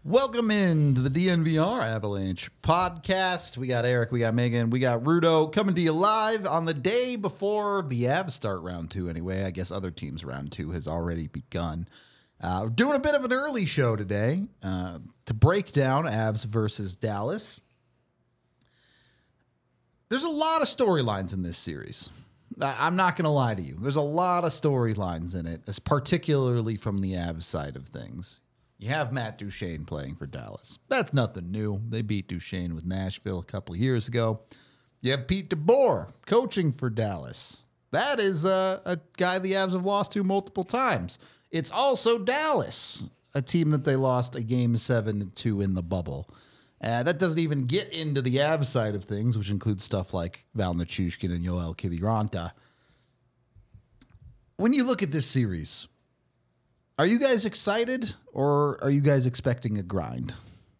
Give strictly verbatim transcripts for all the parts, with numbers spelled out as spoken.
Welcome into the D N V R Avalanche podcast. We got Eric, we got Megan, we got Rudo coming to you live on the day before the Avs start round two anyway. I guess other teams' round two has already begun. Uh, we're doing a bit of an early show today uh, to break down Avs versus Dallas. There's a lot of storylines in this series. I'm not going to lie to you. There's a lot of storylines in it, particularly from the Avs side of things. You have Matt Duchene playing for Dallas. That's nothing new. They beat Duchene with Nashville a couple of years ago. You have Pete DeBoer coaching for Dallas. That is uh, a guy the Avs have lost to multiple times. It's also Dallas, a team that they lost a game seven to two in the bubble. Uh, that doesn't even get into the Avs side of things, which includes stuff like Val Nichushkin and Yoel Kiviranta. When you look at this series, are you guys excited or are you guys expecting a grind?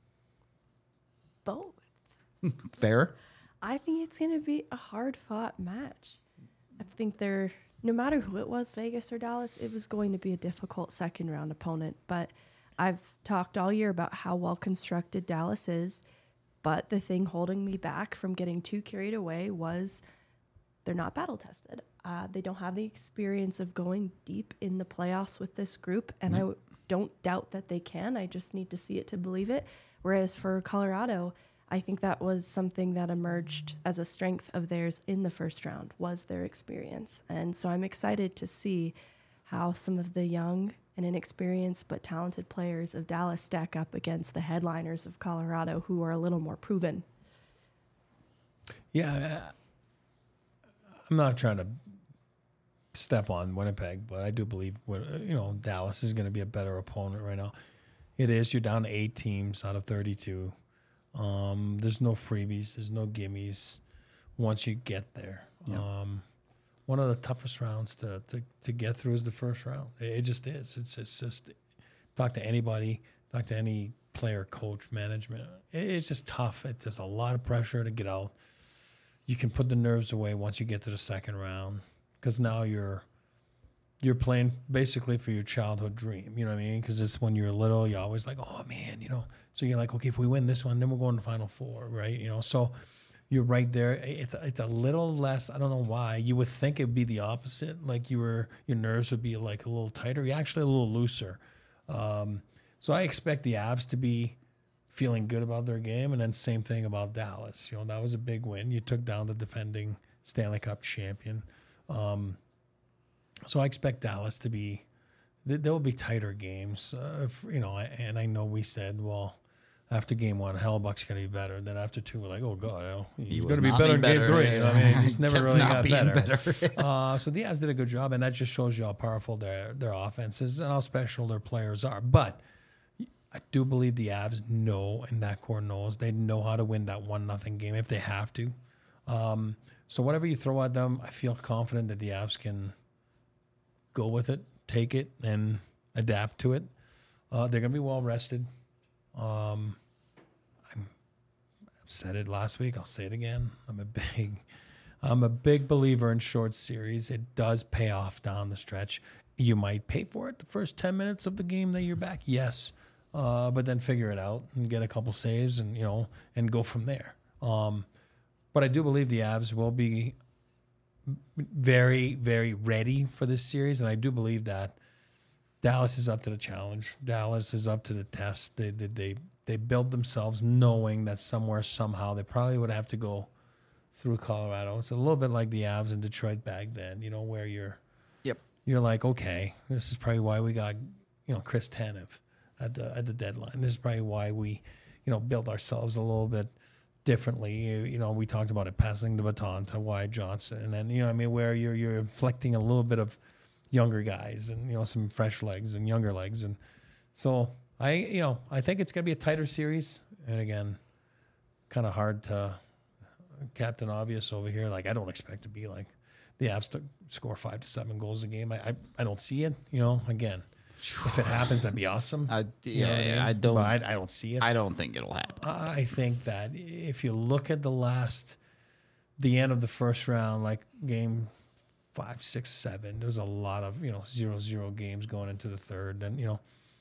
Both. Fair. I think it's going to be a hard-fought match. I think they're, no matter who it was, Vegas or Dallas, it was going to be a difficult second-round opponent. But I've talked all year about how well-constructed Dallas is, but the thing holding me back from getting too carried away was they're not battle-tested. Uh, they don't have the experience of going deep in the playoffs with this group, and mm-hmm. I w- don't doubt that they can. I just need to see it to believe it. Whereas for Colorado, I think that was something that emerged as a strength of theirs in the first round, was their experience. And so I'm excited to see how some of the young and inexperienced but talented players of Dallas stack up against the headliners of Colorado, who are a little more proven. Yeah, I'm not trying to step on Winnipeg, but I do believe, you know, Dallas is going to be a better opponent right now. It is. You're down to eight teams out of thirty-two. Um, there's no freebies. There's no gimmies once you get there. Yep. Um, one of the toughest rounds to, to, to get through is the first round. It, it just is. It's, it's just, talk to anybody, talk to any player, coach, management. It, it's just tough. It's just a lot of pressure to get out. You can put the nerves away once you get to the second round, because now you're you're playing basically for your childhood dream. You know what I mean? Because it's when you're little, you're always like, oh, man, you know. So you're like, okay, if we win this one, then we'll go in the Final Four, right? You know, so you're right there. It's it's a little less, I don't know why. You would think it would be the opposite. Like you were, your nerves would be like a little tighter. You're actually a little looser. Um, so I expect the Avs to be feeling good about their game, and then same thing about Dallas. You know, that was a big win. You took down the defending Stanley Cup champion. Um, so I expect Dallas to be, there will be tighter games, uh, if, you know, and I know we said, well, after game one, Hellebuyck's going to be better. Then after two, we're like, oh, God, you know, he's going to be better in game three. You know, I mean, he just never really got better. better. uh, so the Avs did a good job, and that just shows you how powerful their, their offense is and how special their players are. But I do believe the Avs know, and that core knows, they know how to win that one nothing game if they have to. Um, so whatever you throw at them, I feel confident that the Avs can go with it, take it, and adapt to it. Uh, they're going to be well rested. Um, I'm, I've said it last week. I'll say it again. I'm a big, I'm a big believer in short series. It does pay off down the stretch. You might pay for it the first ten minutes of the game that you're back. Yes. Uh, but then figure it out and get a couple saves and, you know, and go from there. Um, but I do believe the Avs will be very, very ready for this series. And I do believe that Dallas is up to the challenge. Dallas is up to the test. They they they, they build themselves knowing that somewhere, somehow, they probably would have to go through Colorado. It's a little bit like the Avs in Detroit back then, you know, where you're, yep, you're like, okay, this is probably why we got, you know, Chris Tanev at the at the deadline. This is probably why we, you know, build ourselves a little bit differently. You, you know, we talked about it, passing the baton to Wyatt Johnson, and then, you know what I mean, where you're you're inflecting a little bit of younger guys and, you know, some fresh legs and younger legs. And so I, you know, I think it's going to be a tighter series. And again, kind of hard to Captain Obvious over here. Like, I don't expect to be like the Avs to score five to seven goals a game. I, I, I don't see it, you know, again, if it happens, that'd be awesome. I, yeah, you know I, mean? I don't, but I, I don't see it. I don't think it'll happen. I think that if you look at the last, the end of the first round, like game five, six, seven. There's a lot of, you know, zero, zero games going into the third. And, you know,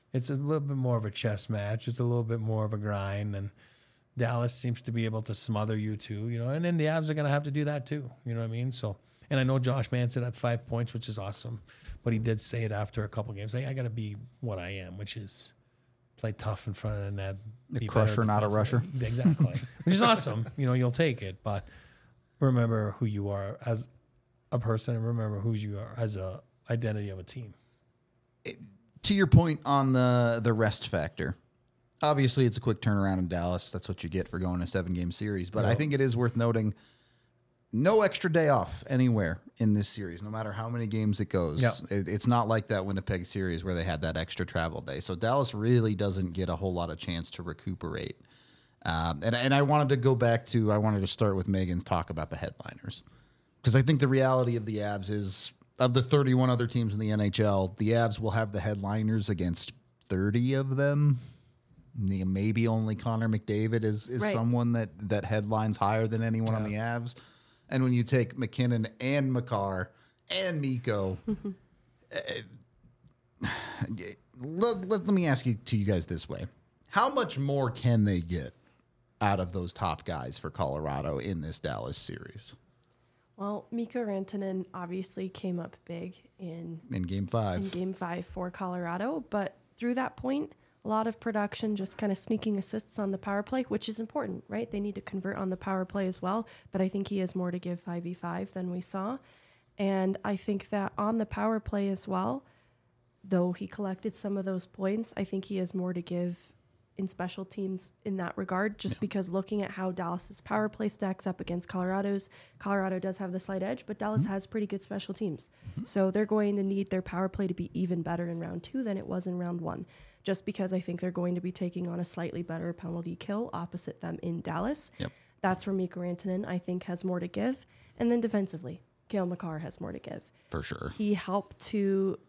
it's a little bit more of a chess match. It's a little bit more of a grind, and Dallas seems to be able to smother you too, you know, and then the Avs are going to have to do that too. You know what I mean? So, and I know Josh Manson had five points, which is awesome, but he did say it after a couple games. Like, I got to be what I am, which is play tough in front of the net. A crusher, not a rusher. Exactly. Which is awesome. You know, you'll take it, but remember who you are as a person and remember who you are as a identity of a team. It, to your point on the, the rest factor, obviously it's a quick turnaround in Dallas. That's what you get for going a seven-game series. But yep. I think it is worth noting no extra day off anywhere in this series, no matter how many games it goes. Yep. It, it's not like that Winnipeg series where they had that extra travel day. So Dallas really doesn't get a whole lot of chance to recuperate. Um, and, and I wanted to go back to, I wanted to start with Megan's talk about the headliners. Because I think the reality of the Avs is, of the thirty-one other teams in the N H L, the Avs will have the headliners against thirty of them. Maybe only Connor McDavid is, is right. someone that, that headlines higher than anyone yeah. on the Avs. And when you take McKinnon and Makar and Mikko, uh, let, let, let me ask you to you guys this way. How much more can they get out of those top guys for Colorado in this Dallas series? Well, Mikko Rantanen obviously came up big in in game five. In game five for Colorado, but through that point, a lot of production, just kind of sneaking assists on the power play, which is important, right? They need to convert on the power play as well, but I think he has more to give five v five than we saw. And I think that on the power play as well, though he collected some of those points, I think he has more to give in special teams in that regard, just yeah. because looking at how Dallas's power play stacks up against Colorado's, Colorado does have the slight edge, but Dallas mm-hmm. has pretty good special teams. Mm-hmm. So they're going to need their power play to be even better in round two than it was in round one, just because I think they're going to be taking on a slightly better penalty kill opposite them in Dallas. Yep. That's where Mikko Rantanen, I think, has more to give. And then defensively, Cale Makar has more to give. For sure. He helped to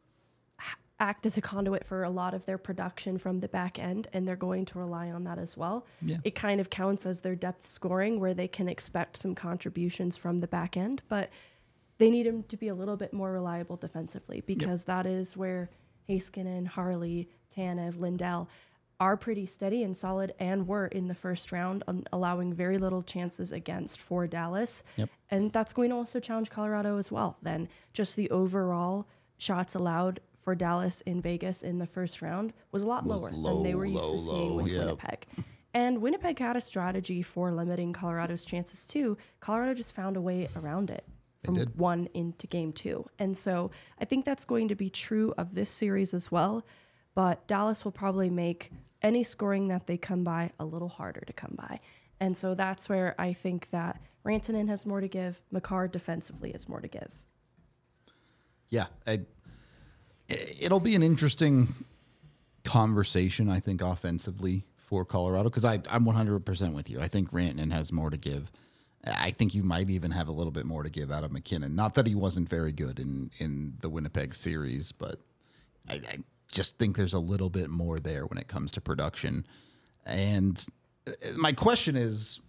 act as a conduit for a lot of their production from the back end, and they're going to rely on that as well. Yeah. It kind of counts as their depth scoring where they can expect some contributions from the back end, but they need him to be a little bit more reliable defensively because yep. that is where Heiskanen, Harley, Tanev, Lindell are pretty steady and solid and were in the first round, um, allowing very little chances against for Dallas. Yep. And that's going to also challenge Colorado as well. Then just the overall shots allowed for Dallas in Vegas in the first round was a lot was lower low, than they were used low, to seeing low, with yep. Winnipeg. And Winnipeg had a strategy for limiting Colorado's chances too. Colorado just found a way around it from one into game two. And so I think that's going to be true of this series as well. But Dallas will probably make any scoring that they come by a little harder to come by. And so that's where I think that Rantanen has more to give. Makar defensively has more to give. Yeah, I, it'll be an interesting conversation, I think, offensively for Colorado, because I'm one hundred percent with you. I think Rantanen has more to give. I think you might even have a little bit more to give out of McKinnon. Not that he wasn't very good in, in the Winnipeg series, but I, I just think there's a little bit more there when it comes to production. And my question is,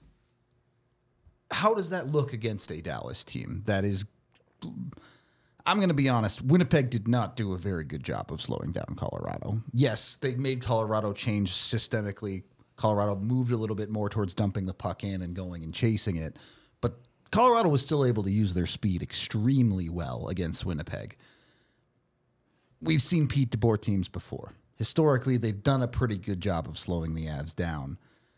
how does that look against a Dallas team that is... I'm going to be honest, Winnipeg did not do a very good job of slowing down Colorado. Yes, they made Colorado change systemically. Colorado moved a little bit more towards dumping the puck in and going and chasing it. But Colorado was still able to use their speed extremely well against Winnipeg. We've seen Pete DeBoer teams before. Historically, they've done a pretty good job of slowing the Avs down.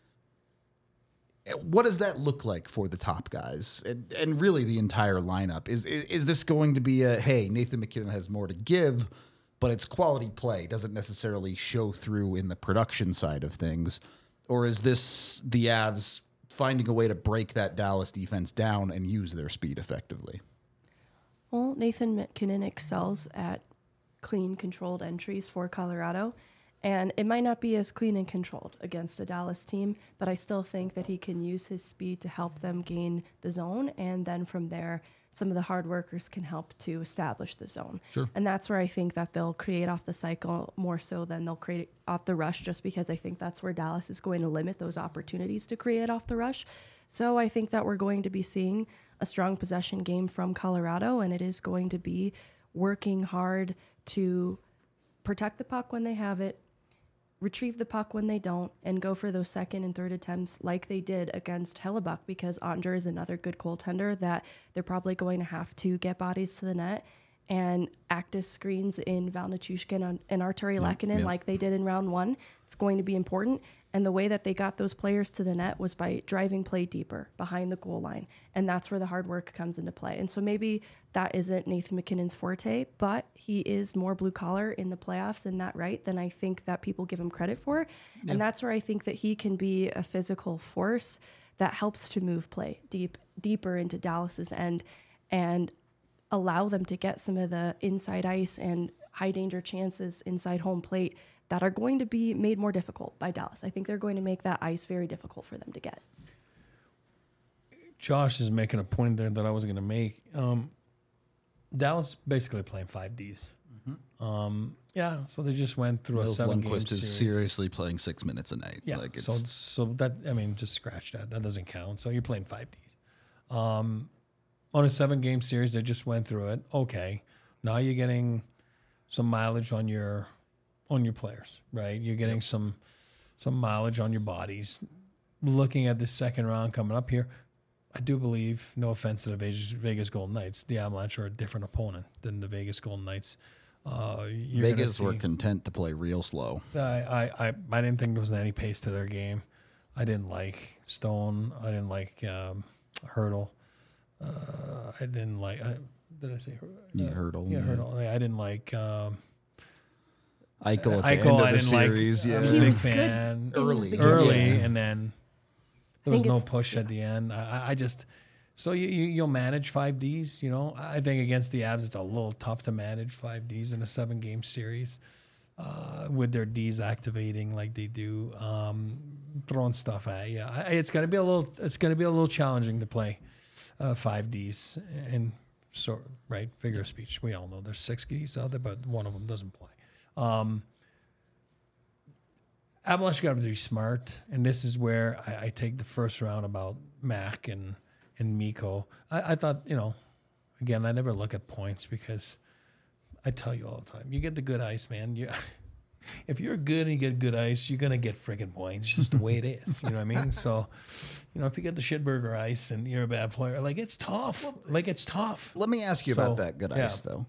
What does that look like for the top guys and, and really the entire lineup? Is, is is this going to be a, hey, Nathan McKinnon has more to give, but it's quality play, doesn't necessarily show through in the production side of things? Or is this the Avs finding a way to break that Dallas defense down and use their speed effectively? Well, Nathan McKinnon excels at clean, controlled entries for Colorado. And it might not be as clean and controlled against a Dallas team, but I still think that he can use his speed to help them gain the zone. And then from there, some of the hard workers can help to establish the zone. Sure. And that's where I think that they'll create off the cycle more so than they'll create off the rush, just because I think that's where Dallas is going to limit those opportunities to create off the rush. So I think that we're going to be seeing a strong possession game from Colorado, and it is going to be working hard to protect the puck when they have it, retrieve the puck when they don't, and go for those second and third attempts like they did against Hellebuck, because Ottinger is another good goaltender that they're probably going to have to get bodies to the net and active screens in Val Nichushkin and Arturi Lehkonen yeah. like they did in round one. It's going to be important. And the way that they got those players to the net was by driving play deeper behind the goal line. And that's where the hard work comes into play. And so maybe that isn't Nathan MacKinnon's forte, but he is more blue collar in the playoffs in that right than I think that people give him credit for. Yeah. And that's where I think that he can be a physical force that helps to move play deep, deeper into Dallas's end and allow them to get some of the inside ice and high danger chances inside home plate that are going to be made more difficult by Dallas. I think they're going to make that ice very difficult for them to get. Josh is making a point there that I was going to make. Um, Dallas basically playing five Ds. Mm-hmm. Um, yeah, so they just went through Nils a seven-game Lundqvist series. is seriously playing six minutes a night. Yeah, like it's, so so that I mean, just scratch that. That doesn't count. So you're playing five Ds. Um, on a seven-game series, they just went through it. Okay, now you're getting some mileage on your on your players, right? You're getting yep. some some mileage on your bodies. Looking at this second round coming up here, I do believe, no offense to the Vegas, Vegas Golden Knights, the Avalanche are a different opponent than the Vegas Golden Knights. Uh, Vegas see, were content to play real slow. I, I, I, I didn't think there was any pace to their game. I didn't like Stone. I didn't like um, Hurdle. Uh, I didn't like. I, did I say uh, yeah, Hurdle? Yeah, yeah. Hurdle. I didn't like. Um, Eichel at the Eichel, end of I the didn't series. like. yeah. I was He a big was good fan in early, the early, beginning. and then there I was think no it's- push yeah. at the end. I, I just so you, you you'll manage five Ds. You know, I think against the Avs, it's a little tough to manage five Ds in a seven game series uh, with their Ds activating like they do, um, throwing stuff at you. I, it's gonna be a little. It's gonna be a little challenging to play uh, five Ds and so right figure of speech. We all know there's six Ds out there, but one of them doesn't play. Um, Avalanche got to be smart, and this is where I, I take the first round about Mac and and Mikko. I, I thought, you know, again, I never look at points because I tell you all the time, you get the good ice, man. You, if you're good and you get good ice, you're gonna get freaking points. It's just the way it is. You know what I mean? So, you know, if you get the shitburger ice and you're a bad player, like it's tough. Well, like it's tough. Let me ask you So, about that good yeah. ice, though.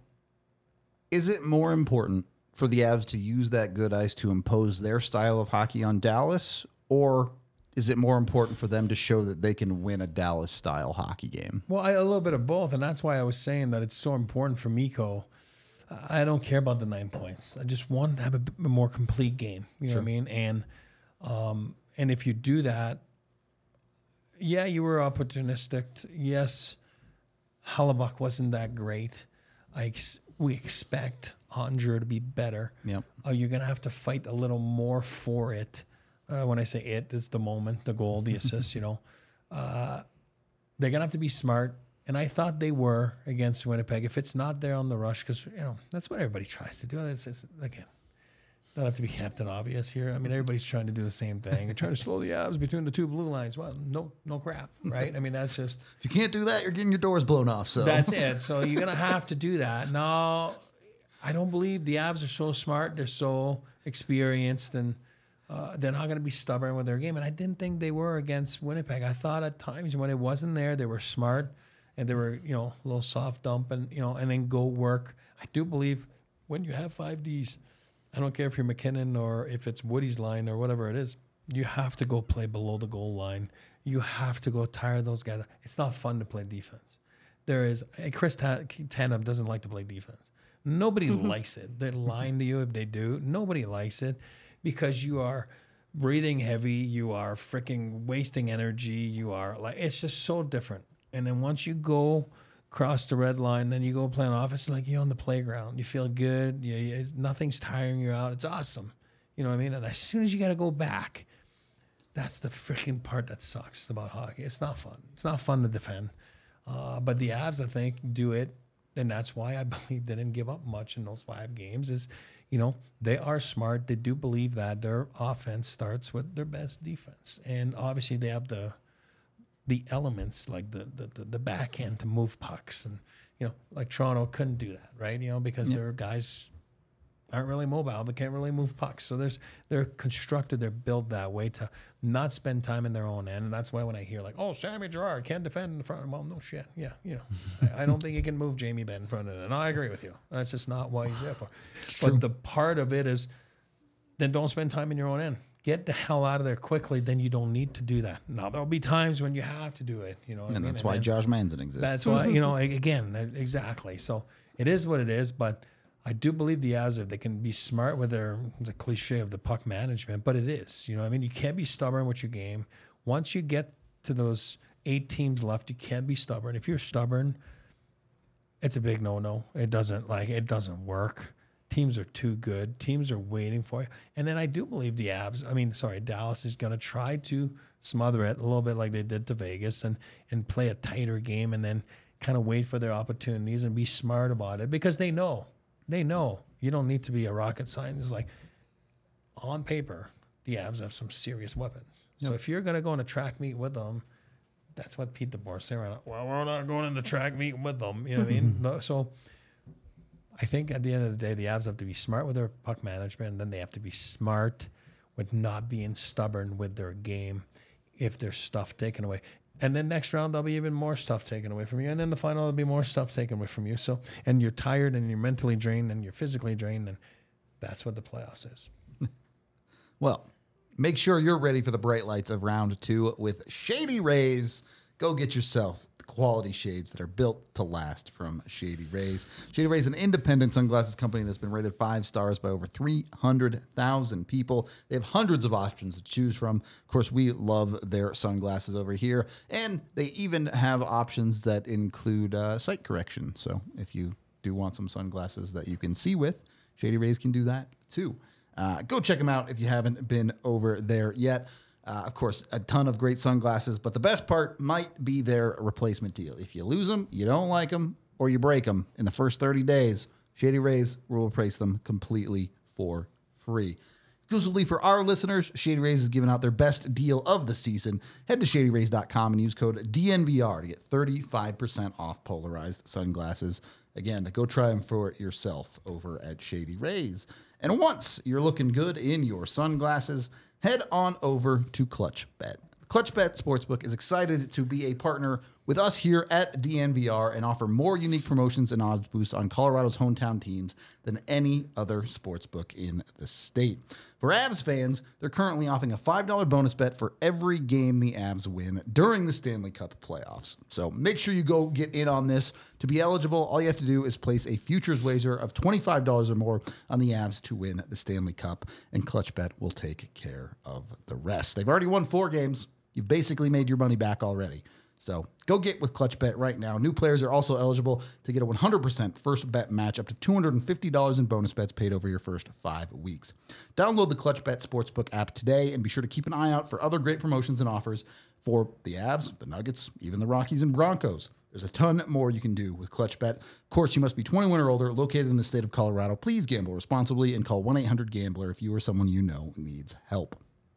Is it more important for the Avs to use that good ice to impose their style of hockey on Dallas, or is it more important for them to show that they can win a Dallas-style hockey game? Well, I, a little bit of both, and that's why I was saying that it's so important for Mikko. I don't care about the nine points. I just want to have a, bit more complete game. You know Sure. what I mean? And um, and if you do that, yeah, you were opportunistic. Yes, Hellebuck wasn't that great. I ex- we expect Ottinger to be better. Yep. Uh, you're gonna have to fight a little more for it. Uh, when I say it, it's the moment, the goal, the assist. You know, uh, they're gonna have to be smart. And I thought they were against Winnipeg. If it's not there on the rush, because you know that's what everybody tries to do. It's, it's again, don't have to be Captain Obvious here. I mean, everybody's trying to do the same thing. They're trying to slow the Avs between the two blue lines. Well, no, no crap, right? I mean, that's just If you can't do that, you're getting your doors blown off. So that's it. So you're gonna have to do that. No, I don't believe the Avs are so smart. They're so experienced, and uh, they're not gonna be stubborn with their game. And I didn't think they were against Winnipeg. I thought at times when it wasn't there, they were smart. And they were, you know, a little soft dump and, you know, and then go work. I do believe when you have five Ds, I don't care if you're MacKinnon or if it's Woody's line or whatever it is, you have to go play below the goal line. You have to go tire those guys. It's not fun to play defense. There is, Chris Tanev doesn't like to play defense. Nobody likes it. They're lying to you if they do. Nobody likes it because you are breathing heavy. You are freaking wasting energy. You are like, it's just so different. And then once you go cross the red line, then you go play on offense, like you're on the playground. You feel good. You, you, nothing's tiring you out. It's awesome. You know what I mean? And as soon as you got to go back, that's the freaking part that sucks about hockey. It's not fun. It's not fun to defend. Uh, but the Avs, I think, do it. And that's why I believe they didn't give up much in those five games is, you know, they are smart. They do believe that their offense starts with their best defense. And obviously they have the the elements like the, the, the backhand to move pucks. And, you know, like Toronto couldn't do that, right? You know, because Yep. there are guys aren't really mobile. They can't really move pucks. So there's they're constructed, they're built that way to not spend time in their own end. And that's why when I hear like, oh, Sammy Girard can't defend in the front. Well, no shit. Yeah, you know, I, I don't think he can move Jamie Benn in front of it. And I agree with you. That's just not what he's there for. But the part of it is, then don't spend time in your own end. Get the hell out of there quickly. Then you don't need to do that. Now there'll be times when you have to do it. You know, what and I mean? that's And why then, Josh Manson exists. That's why, you know, again, that- exactly. So it is what it is, but I do believe the Avs, if they can be smart with their, the cliche of the puck management, but it is, you know, I mean, you can't be stubborn with your game. Once you get to those eight teams left, you can't be stubborn. If you're stubborn, it's a big no-no. It doesn't like, it doesn't work. Teams are too good. Teams are waiting for you. And then I do believe the Avs, I mean, sorry, Dallas is going to try to smother it a little bit like they did to Vegas and, and play a tighter game and then kind of wait for their opportunities and be smart about it because they know, they know you don't need to be a rocket scientist. Like on paper, the Avs have some serious weapons. Yep. So if you're going to go in a track meet with them, that's what Pete DeBoer said. Right? Well, we're not going in the track meet with them. You know what I mean? No, so I think at the end of the day, the Avs have to be smart with their puck management, and then they have to be smart with not being stubborn with their game if there's stuff taken away. And then next round, there'll be even more stuff taken away from you. And then the final, there'll be more stuff taken away from you. So, and you're tired and you're mentally drained and you're physically drained. And that's what the playoffs is. Well, make sure you're ready for the bright lights of round two with Shady Rays. Go get yourself the quality shades that are built to last from Shady Rays. Shady Rays is an independent sunglasses company that's been rated five stars by over three hundred thousand people. They have hundreds of options to choose from. Of course, we love their sunglasses over here. And they even have options that include uh, sight correction. So if you do want some sunglasses that you can see with, Shady Rays can do that too. Uh, go check them out if you haven't been over there yet. Uh, of course, a ton of great sunglasses, but the best part might be their replacement deal. If you lose them, you don't like them, or you break them in the first thirty days, Shady Rays will replace them completely for free. Exclusively for our listeners, Shady Rays is giving out their best deal of the season. Head to shady rays dot com and use code D N V R to get thirty-five percent off polarized sunglasses. Again, go try them for it yourself over at Shady Rays. And once you're looking good in your sunglasses, head on over to ClutchBet. ClutchBet Sportsbook is excited to be a partner with us here at D N V R and offer more unique promotions and odds boosts on Colorado's hometown teams than any other sportsbook in the state. For Avs fans, they're currently offering a five dollars bonus bet for every game the Avs win during the Stanley Cup playoffs. So make sure you go get in on this. To be eligible, all you have to do is place a futures wager of twenty-five dollars or more on the Avs to win the Stanley Cup, and ClutchBet will take care of the rest. They've already won four games. You've basically made your money back already. So go get with ClutchBet right now. New players are also eligible to get a one hundred percent first bet match up to two hundred fifty dollars in bonus bets paid over your first five weeks. Download the ClutchBet Sportsbook app today and be sure to keep an eye out for other great promotions and offers for the Avs, the Nuggets, even the Rockies and Broncos. There's a ton more you can do with ClutchBet. Of course, you must be twenty-one or older, located in the state of Colorado. Please gamble responsibly and call one eight hundred gambler if you or someone you know needs help.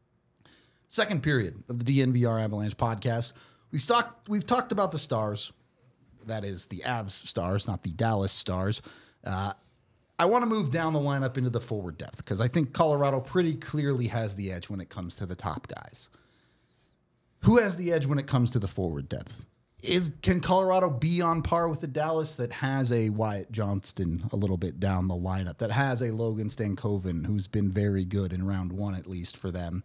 Second period of the D N V R Avalanche podcast. We've talked, we've talked about the stars. That is the Avs stars, not the Dallas stars. Uh, I want to move down the lineup into the forward depth because I think Colorado pretty clearly has the edge when it comes to the top guys. Who has the edge when it comes to the forward depth? Is Can Colorado be on par with the Dallas that has a Wyatt Johnston a little bit down the lineup, that has a Logan Stankoven who's been very good in round one at least for them?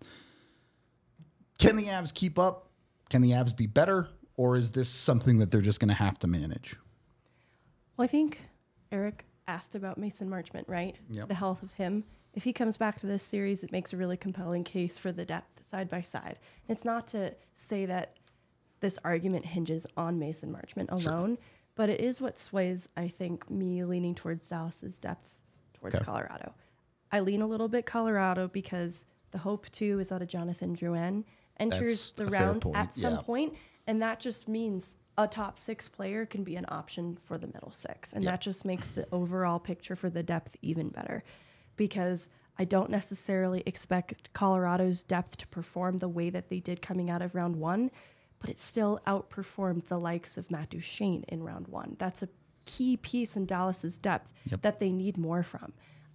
Can the Avs keep up? Can the Avs be better? Or is this something that they're just going to have to manage? Well, I think Eric asked about Mason Marchment, right? Yep. The health of him. If he comes back to this series, it makes a really compelling case for the depth side by side. It's not to say that this argument hinges on Mason Marchment alone, sure, but it is what sways, I think, me leaning towards Dallas's depth towards okay. Colorado. I lean a little bit Colorado because the hope, too, is that a Jonathan Drouin enters That's the round at some yeah. point, and that just means a top six player can be an option for the middle six, and yep. that just makes the overall picture for the depth even better, because I don't necessarily expect Colorado's depth to perform the way that they did coming out of round one, but it still outperformed the likes of Matt Duchene in round one. That's a key piece in Dallas's depth yep. that they need more from.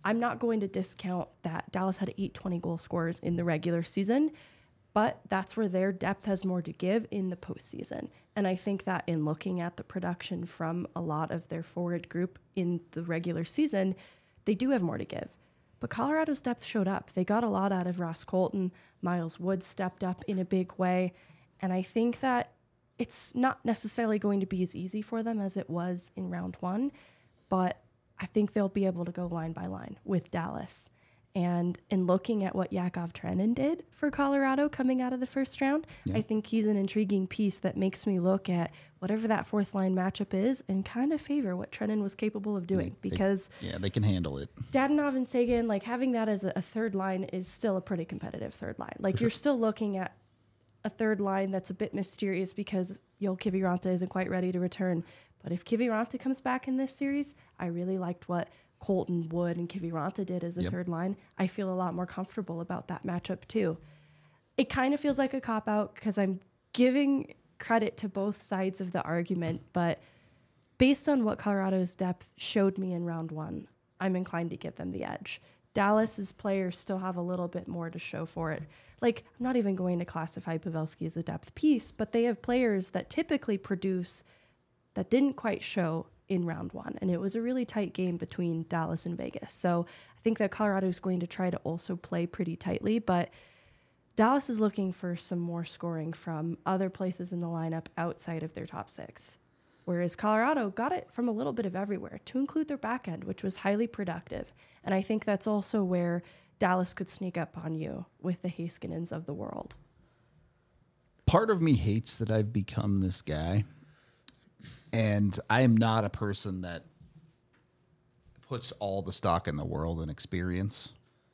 I'm not going to discount that Dallas had eight twenty goal scorers in the regular season, but that's where their depth has more to give in the postseason. And I think that in looking at the production from a lot of their forward group in the regular season, they do have more to give. But Colorado's depth showed up. They got a lot out of Ross Colton. Miles Wood stepped up in a big way. And I think that it's not necessarily going to be as easy for them as it was in round one, but I think they'll be able to go line by line with Dallas. And in looking at what Yakov Trenin did for Colorado coming out of the first round, yeah. I think he's an intriguing piece that makes me look at whatever that fourth line matchup is and kind of favor what Trenin was capable of doing. They, because they, yeah, they can handle it. Dadonov and Seguin, like having that as a, a third line is still a pretty competitive third line. Like for you're sure. Still looking at a third line that's a bit mysterious because Joel Kiviranta isn't quite ready to return. But if Kiviranta comes back in this series, I really liked what Colton, Wood, and Kiviranta did as a yep. third line. I feel a lot more comfortable about that matchup too. It kind of feels like a cop-out because I'm giving credit to both sides of the argument, but based on what Colorado's depth showed me in round one, I'm inclined to give them the edge. Dallas's players still have a little bit more to show for it. Like, I'm not even going to classify Pavelski as a depth piece, but they have players that typically produce that didn't quite show in round one. And it was a really tight game between Dallas and Vegas. So I think that Colorado is going to try to also play pretty tightly, but Dallas is looking for some more scoring from other places in the lineup outside of their top six. Whereas Colorado got it from a little bit of everywhere, to include their back end, which was highly productive. And I think that's also where Dallas could sneak up on you with the Heiskanens of the world. Part of me hates that I've become this guy. And I am not a person that puts all the stock in the world in experience.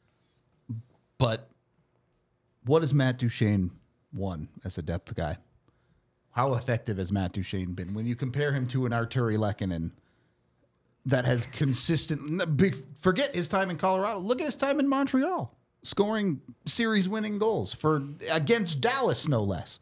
But what has Matt Duchene won as a depth guy? How effective has Matt Duchene been? When you compare him to an Arturi Lehkonen that has consistent... Forget his time in Colorado. Look at his time in Montreal, scoring series-winning goals for against Dallas, no less.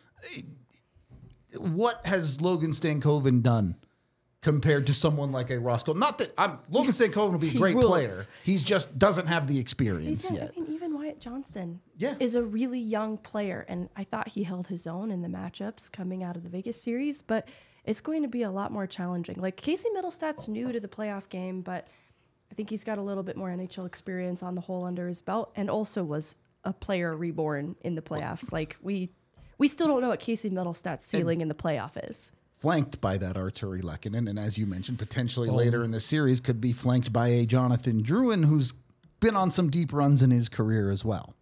What has Logan Stankoven done compared to someone like a Ross Colton? Not that I'm, Logan Stankoven will be a he great rules. player. He's just doesn't have the experience yeah, yet. I mean, even Wyatt Johnston yeah. is a really young player, and I thought he held his own in the matchups coming out of the Vegas series, but it's going to be a lot more challenging. Like, Casey Middlestad's new to the playoff game, but I think he's got a little bit more N H L experience on the whole under his belt, and also was a player reborn in the playoffs. Like, we... We still don't know what Casey Middlestad's ceiling and in the playoff is. Flanked by that Arturi Lehkonen, and as you mentioned, potentially oh. later in the series could be flanked by a Jonathan Drouin, who's been on some deep runs in his career as well.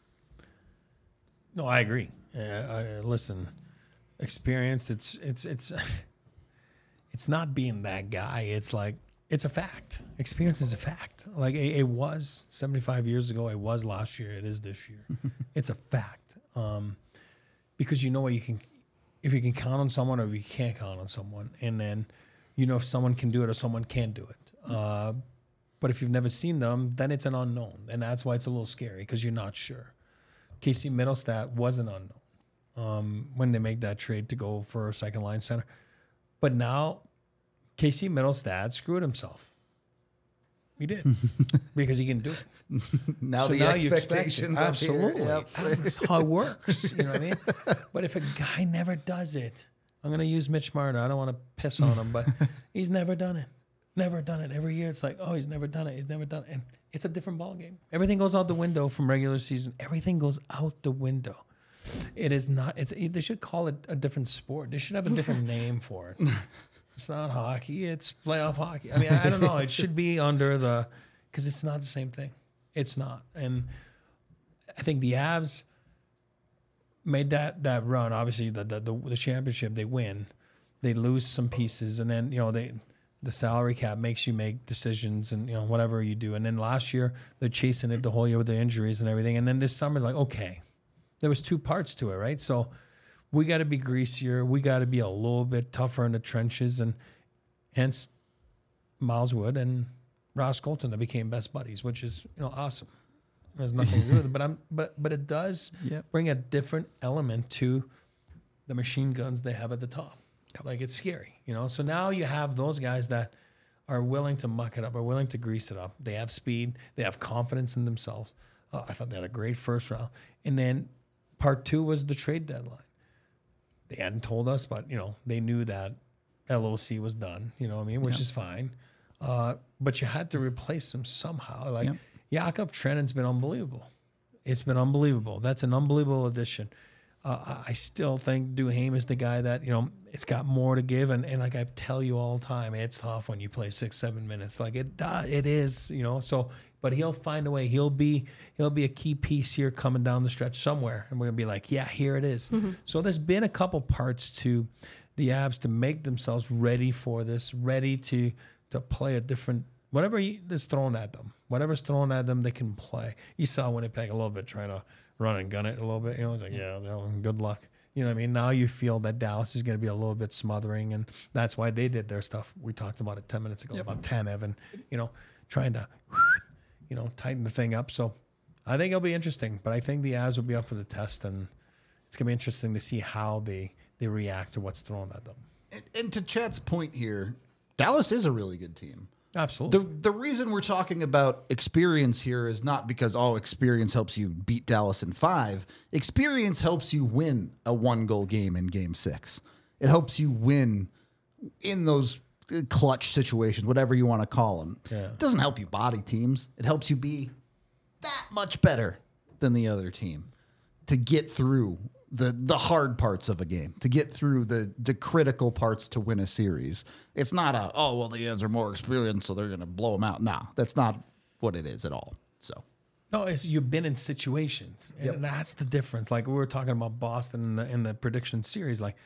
No, I agree. Uh, I, listen, experience. It's it's it's it's not being that guy. It's like it's a fact. Experience is a fact. Like it, it was seventy-five years ago. It was last year. It is this year. It's a fact. Um, Because you know what you can, if you can count on someone or if you can't count on someone, and then you know if someone can do it or someone can't do it. Uh, but if you've never seen them, then it's an unknown, and that's why it's a little scary because you're not sure. Casey Middlestad was an unknown um, when they made that trade to go for a second line center, but now Casey Middlestad screwed himself. He did because he can do it. now so the now expectations up absolutely. Yep. That's how it works. You know what I mean? But if a guy never does it, I'm going to use Mitch Marner. I don't want to piss on him, but he's never done it. Never done it. Every year it's like, oh, he's never done it. He's never done it. And it's a different ballgame. Everything goes out the window from regular season. Everything goes out the window. It is not. It's. They should call it a different sport. They should have a different name for it. It's not hockey. It's playoff hockey. I mean, I, I don't know. It should be under the, because it's not the same thing. It's not. And I think the Avs made that that run. Obviously, the the, the the championship, they win. They lose some pieces, and then, you know, they the salary cap makes you make decisions and, you know, whatever you do. And then last year, they're chasing it the whole year with the injuries and everything. And then this summer, like, okay, there was two parts to it, right? So we got to be greasier. We got to be a little bit tougher in the trenches, and hence Miles Wood and Ross Colton that became best buddies, which is, you know, awesome. There's nothing to do with it, but I'm but but it does yep. bring a different element to the machine guns they have at the top. Yep. Like, it's scary, you know. So now you have those guys that are willing to muck it up, are willing to grease it up. They have speed. They have confidence in themselves. Uh, I thought they had a great first round. And then part two was the trade deadline. They hadn't told us, but, you know, they knew that L O C was done, you know what I mean, which Yep. is fine. Uh, but you had to replace him somehow. Like, Yep. Yakov Trenin's been unbelievable. It's been unbelievable. That's an unbelievable addition. Uh, I still think Duhaime is the guy that, you know, it's got more to give. And, and like I tell you all the time, it's tough when you play six, seven minutes. Like it uh, it is, you know. So, but he'll find a way. He'll be he'll be a key piece here coming down the stretch somewhere. And we're going to be like, yeah, here it is. Mm-hmm. So there's been a couple parts to the Avs to make themselves ready for this, ready to to play a different, whatever is thrown at them. Whatever's thrown at them, they can play. You saw Winnipeg a little bit trying to run and gun it a little bit. You know, it's like, yeah, no, good luck. You know what I mean? Now you feel that Dallas is going to be a little bit smothering, and that's why they did their stuff. We talked about it ten minutes ago, yep. about ten, Evan, you know, trying to, you know, tighten the thing up. So I think it'll be interesting, but I think the Avs will be up for the test, and it's going to be interesting to see how they, they react to what's thrown at them. And, and to Chat's point here, Dallas is a really good team. Absolutely. The the reason we're talking about experience here is not because, oh, experience helps you beat Dallas in five. Experience helps you win a one-goal game in game six. It helps you win in those clutch situations, whatever you want to call them. Yeah. It doesn't help you body teams. It helps you be that much better than the other team to get through the the hard parts of a game, to get through the the critical parts to win a series. It's not a, oh, well, the Avs are more experienced, so they're going to blow them out. No, that's not what it is at all. So, no, it's you've been in situations, and Yep. that's the difference. Like we were talking about Boston in the, in the prediction series, like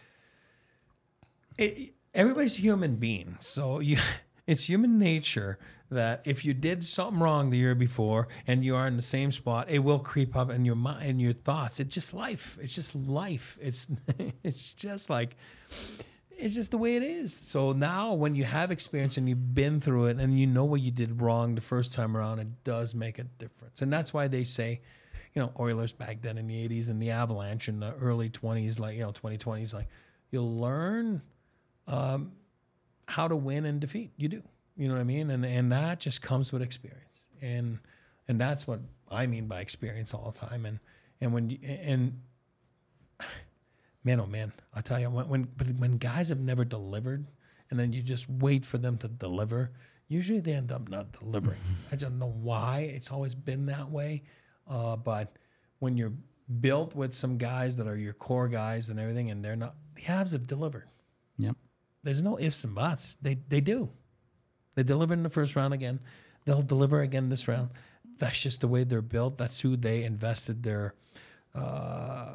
it, everybody's a human being, so you, it's human nature that if you did something wrong the year before and you are in the same spot, it will creep up in your mind, in your thoughts. It's just life. It's just life. It's it's just like. It's just the way it is. So now when you have experience and you've been through it and you know what you did wrong the first time around, it does make a difference. And that's why they say, you know, Oilers back then in the eighties and the Avalanche in the early twenties, like, you know, twenty twenties, like you'll learn um, how to win and defeat. You do. You know what I mean? And and that just comes with experience. And and that's what I mean by experience all the time. And and when you, and man, oh man, I'll tell you, when, when but when guys have never delivered and then you just wait for them to deliver, usually they end up not delivering. I don't know why. It's always been that way. Uh, but when you're built with some guys that are your core guys and everything, and they're not, the Avs have delivered. yep. There's no ifs and buts. They they do. They delivered in the first round again. They'll deliver again this round. That's just the way they're built. That's who they invested their uh,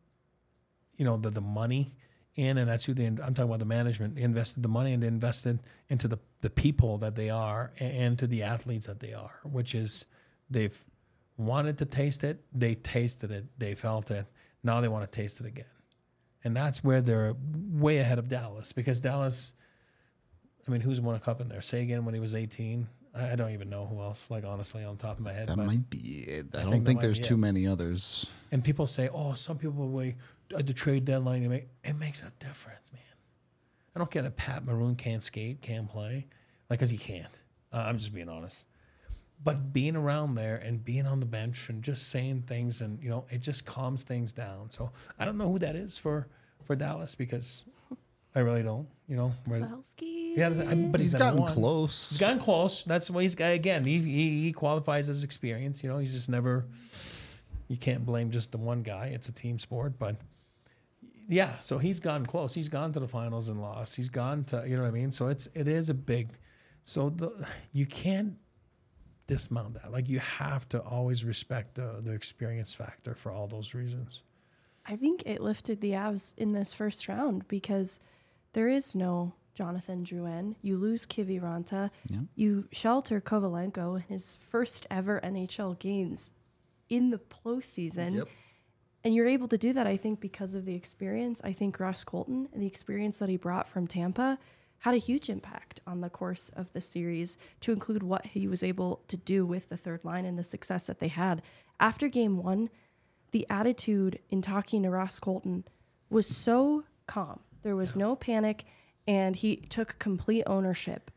you know, the, the money in, and that's who they, I'm talking about the management, they invested the money and they invested into the, the people that they are and, and to the athletes that they are, which is they've wanted to taste it. They tasted it. They felt it. Now they want to taste it again. And that's where they're way ahead of Dallas, because Dallas, I mean, who's won a cup in there? Sagan when he was eighteen. I, I don't even know who else, like, honestly, on the top of my head. That but might be it. I, I don't think think, that might there's be too it. many others. And people say, oh, some people will at the trade deadline, you make, it makes a difference, man. I don't care that Pat Maroon can't skate, can't play, like, because he can't. Uh, I'm just being honest. But being around there and being on the bench and just saying things, and, you know, it just calms things down. So I don't know who that is for, for Dallas, because I really don't, you know. Where, Pavelski. yeah, I mean, but he's, He's never gotten won. close. He's gotten close. That's why he's got, again, he, he, he qualifies as experience. You know, he's just never, you can't blame just the one guy. It's a team sport. But yeah, so he's gone close. He's gone to the finals and lost. He's gone to, you know what I mean? So it's, it is a big, so the, you can't dismount that. Like, you have to always respect the, the experience factor for all those reasons. I think it lifted the Avs in this first round because there is no Jonathan Drouin. You lose Kiviranta. Yeah. You shelter Kovalenko in his first ever N H L games in the postseason. Yep. And you're able to do that, I think, because of the experience. I think Ross Colton and the experience that he brought from Tampa had a huge impact on the course of the series, to include what he was able to do with the third line and the success that they had. After game one, the attitude in talking to Ross Colton was so calm. There was no panic, and he took complete ownership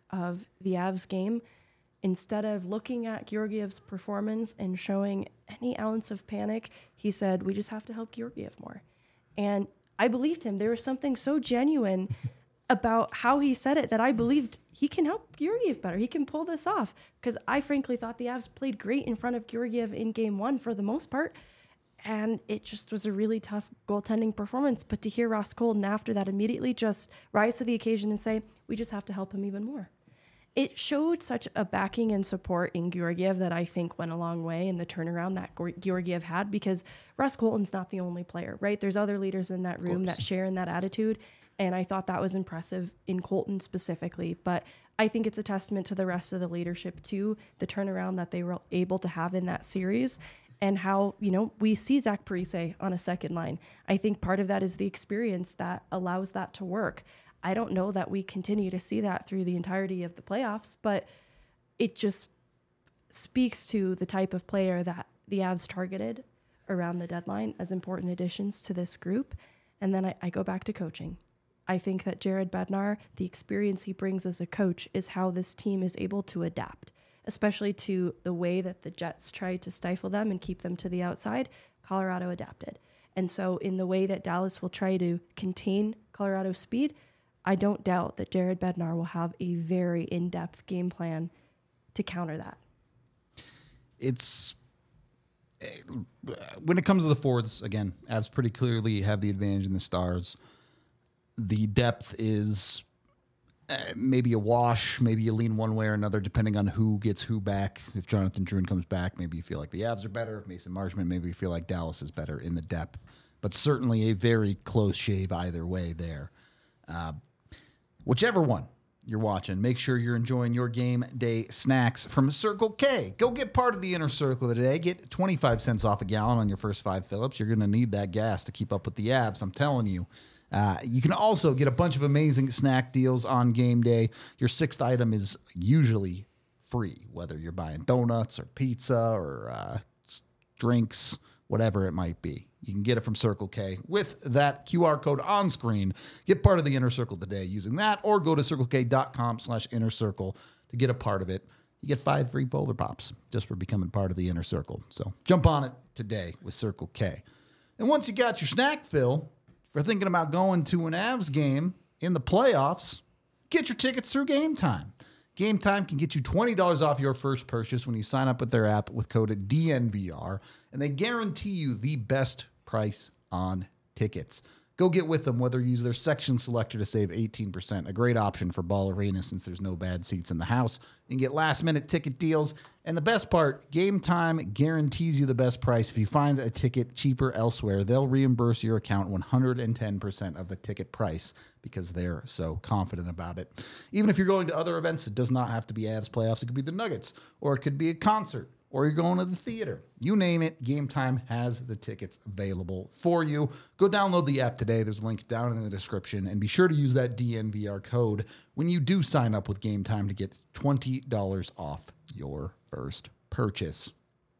of the Avs game, instead of looking at Georgiev's performance and showing any ounce of panic, he said, we just have to help Georgiev more. And I believed him. There was something so genuine about how he said it that I believed he can help Georgiev better. He can pull this off. Because I frankly thought the Avs played great in front of Georgiev in game one for the most part. And it just was a really tough goaltending performance. But to hear Ross Colton after that immediately just rise to the occasion and say, we just have to help him even more. It showed such a backing and support in Georgiev that I think went a long way in the turnaround that Georgiev had, because Ross Colton's not the only player, right? There's other leaders in that room that share in that attitude. And I thought that was impressive in Colton specifically. But I think it's a testament to the rest of the leadership too, the turnaround that they were able to have in that series, and how, you know, we see Zach Parise on a second line. I think part of that is the experience that allows that to work. I don't know that we continue to see that through the entirety of the playoffs, but it just speaks to the type of player that the Avs targeted around the deadline as important additions to this group. And then I, I go back to coaching. I think that Jared Bednar, the experience he brings as a coach, is how this team is able to adapt, especially to the way that the Jets tried to stifle them and keep them to the outside. Colorado adapted. And so in the way that Dallas will try to contain Colorado's speed, I don't doubt that Jared Bednar will have a very in-depth game plan to counter that. It's when it comes to the forwards, again, Avs pretty clearly have the advantage in the Stars. The depth is uh, maybe a wash. Maybe you lean one way or another, depending on who gets who back. If Jonathan Drouin comes back, maybe you feel like the Avs are better. If Mason Marchment, maybe you feel like Dallas is better in the depth. But certainly a very close shave either way there. Uh, whichever one you're watching, make sure you're enjoying your game day snacks from Circle K. Go get part of the inner circle today. Get twenty-five cents off a gallon on your first five fill-ups. You're going to need that gas to keep up with the Avs, I'm telling you. Uh, you can also get a bunch of amazing snack deals on game day. Your sixth item is usually free, whether you're buying donuts or pizza or uh, drinks, whatever it might be. You can get it from Circle K with that Q R code on screen. Get part of the Inner Circle today using that, or go to circlek.com slash inner circle to get a part of it. You get five free Polar Pops just for becoming part of the Inner Circle. So jump on it today with Circle K. And once you got your snack fill, if you're thinking about going to an Avs game in the playoffs, get your tickets through Game Time. Game Time can get you twenty dollars off your first purchase when you sign up with their app with code D N V R, and they guarantee you the best price on tickets. Go get with them, whether you use their section selector to save eighteen percent, a great option for Ball Arena since there's no bad seats in the house. You can get last-minute ticket deals, and the best part, Game Time guarantees you the best price. If you find a ticket cheaper elsewhere, they'll reimburse your account one hundred ten percent of the ticket price because they're so confident about it. Even if you're going to other events, it does not have to be Avs playoffs. It could be the Nuggets, or it could be a concert, or you're going to the theater. You name it, Game Time has the tickets available for you. Go download the app today. There's a link down in the description. And be sure to use that D N V R code when you do sign up with Game Time to get twenty dollars off your first purchase.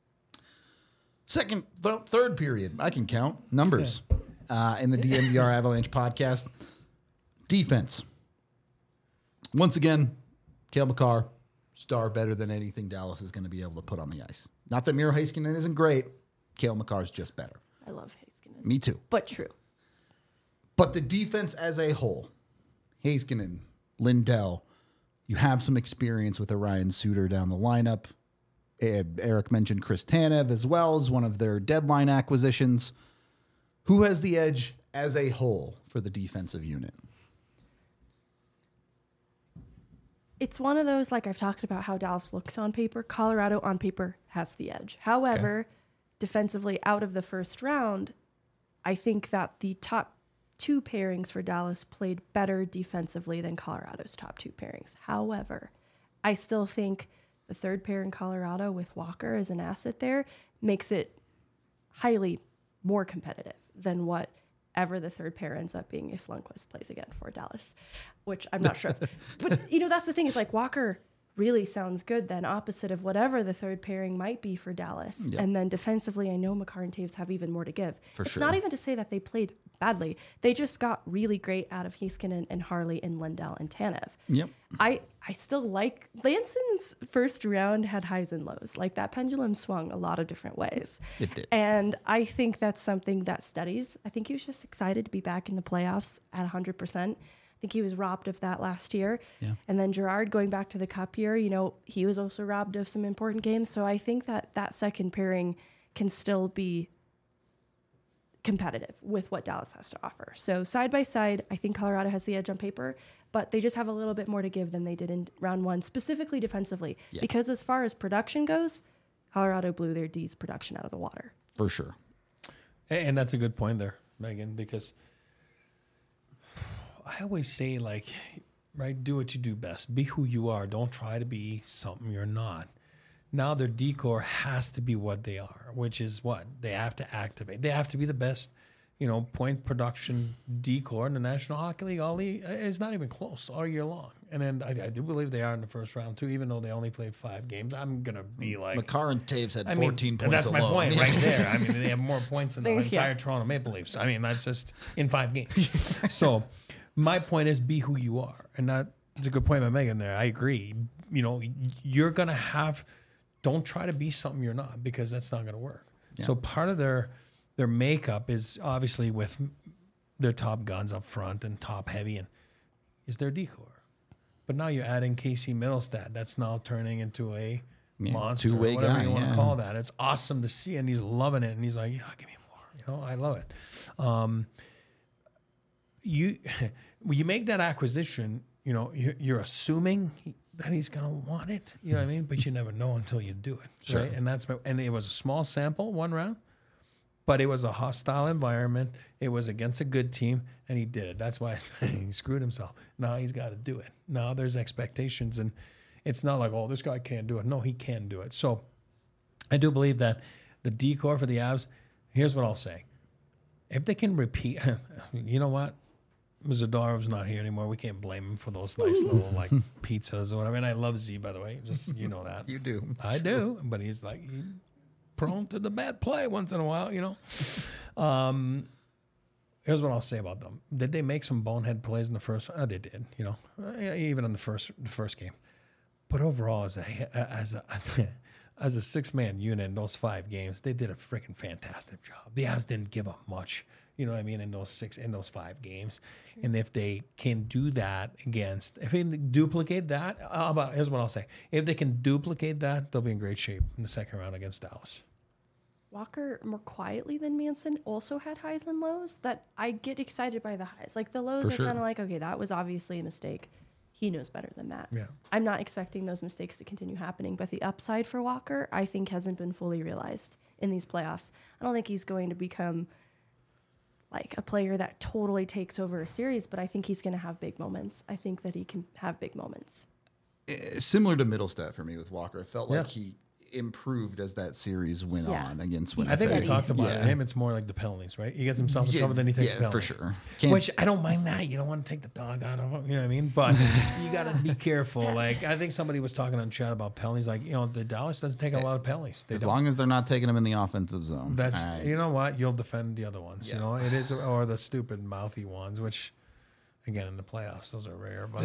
Second, th- third period, I can count numbers uh, in the D N V R Avalanche podcast. Defense. Once again, Cale Makar, star better than anything Dallas is going to be able to put on the ice. Not that Miro Heiskanen isn't great. Cale Makar is just better. I love Heiskanen. Me too. But true. But the defense as a whole, Heiskanen, Lindell, you have some experience with Orion Suter down the lineup. Eric mentioned Chris Tanev as well as one of their deadline acquisitions. Who has the edge as a whole for the defensive unit? It's one of those, like I've talked about how Dallas looks on paper. Colorado on paper has the edge. However, okay. defensively out of the first round, I think that the top two pairings for Dallas played better defensively than Colorado's top two pairings. However, I still think the third pair in Colorado with Walker as an asset there makes it highly more competitive than what ever the third pair ends up being if Lundqvist plays again for Dallas, which I'm not sure. But, you know, that's the thing is like Walker really sounds good then opposite of whatever the third pairing might be for Dallas. Yep. And then defensively, I know Makar and Taves have even more to give. For it's sure. Not even to say that they played badly. They just got really great out of Heiskanen and Harley and Lindell and Tanev. Yep. I, I still like Lanson's first round had highs and lows. Like that pendulum swung a lot of different ways. It did. And I think that's something that studies. I think he was just excited to be back in the playoffs at one hundred percent. I think he was robbed of that last year. Yeah. And then Gerard going back to the cup year, you know, he was also robbed of some important games. So I think that that second pairing can still be competitive with what Dallas has to offer. So side by side, I think Colorado has the edge on paper, but they just have a little bit more to give than they did in round one, specifically defensively. Yeah. Because as far as production goes, Colorado blew their D's production out of the water. For sure. And that's a good point there, Megan, because I always say, like, right, do what you do best. Be who you are. Don't try to be something you're not. Now their decor has to be what they are, which is what? They have to activate. They have to be the best, you know, point production decor in the National Hockey League. All the, it's not even close all year long. And then I, I do believe they are in the first round, too, even though they only played five games. I'm going to be like... Makar and Taves had I mean, fourteen points that's my alone. point right there. I mean, they have more points than the There- entire yeah. Toronto Maple Leafs. I mean, that's just in five games. So my point is be who you are. And that's a good point by Megan there. I agree. You know, you're going to have... Don't try to be something you're not, because that's not going to work. Yeah. So part of their their makeup is obviously with their top guns up front and top heavy, and is their decor. But now you're adding Casey Middlestad. That's now turning into a Yeah, monster, two-way whatever guy, you want yeah. to call that. It's awesome to see, and he's loving it, and he's like, "Yeah, give me more." You know, I love it. Um, you when you make that acquisition, you know, you're, you're assuming he, that he's going to want it. You know what I mean? But you never know until you do it. Sure. Right? And that's my, and it was a small sample, one round, but it was a hostile environment. It was against a good team, and he did it. That's why I say he screwed himself. Now he's got to do it. Now there's expectations, and it's not like, oh, this guy can't do it. No, he can do it. So I do believe that the decor for the Avs, here's what I'll say. If they can repeat, you know what? Zadorov's not here anymore. We can't blame him for those nice little like pizzas or whatever. And I love Z, by the way. Just you know that. You do. It's I true. do, but he's like he's prone to the bad play once in a while, you know. Um, here's what I'll say about them: did they make some bonehead plays in the first? Oh, they did, you know, uh, even in the first the first game. But overall, as a as a, as a, as a six man unit in those five games, they did a freaking fantastic job. The Avs didn't give up much. You know what I mean? In those six, in those five games, sure. And if they can do that against, if they can duplicate that, how about here's what I'll say: if they can duplicate that, they'll be in great shape in the second round against Dallas. Walker, more quietly than Manson, also had highs and lows that I get excited by the highs. Like the lows For are sure. kind of like, okay, that was obviously a mistake. He knows better than that. Yeah. I'm not expecting those mistakes to continue happening, but the upside for Walker, I think, hasn't been fully realized in these playoffs. I don't think he's going to become like a player that totally takes over a series, but I think he's going to have big moments. I think that he can have big moments. Eh, Similar to Middlestat for me with Walker. It felt like Yeah. he improved as that series went Yeah. on against He's I think we Winnipeg. talked about Yeah. it. Him, it's more like the penalties, right? He gets himself in Yeah, trouble, then he takes yeah, a penalty. for sure. Can't- Which I don't mind that. You don't want to take the dog out of him, you know what I mean? But you got to be careful. Like, I think somebody was talking on chat about penalties. Like, you know, the Dallas doesn't take a lot of penalties. They as don't. long as they're not taking him in the offensive zone. That's, All right. you know what? You'll defend the other ones. Yeah. You know, it is, or the stupid mouthy ones, which, again, in the playoffs, those are rare. But,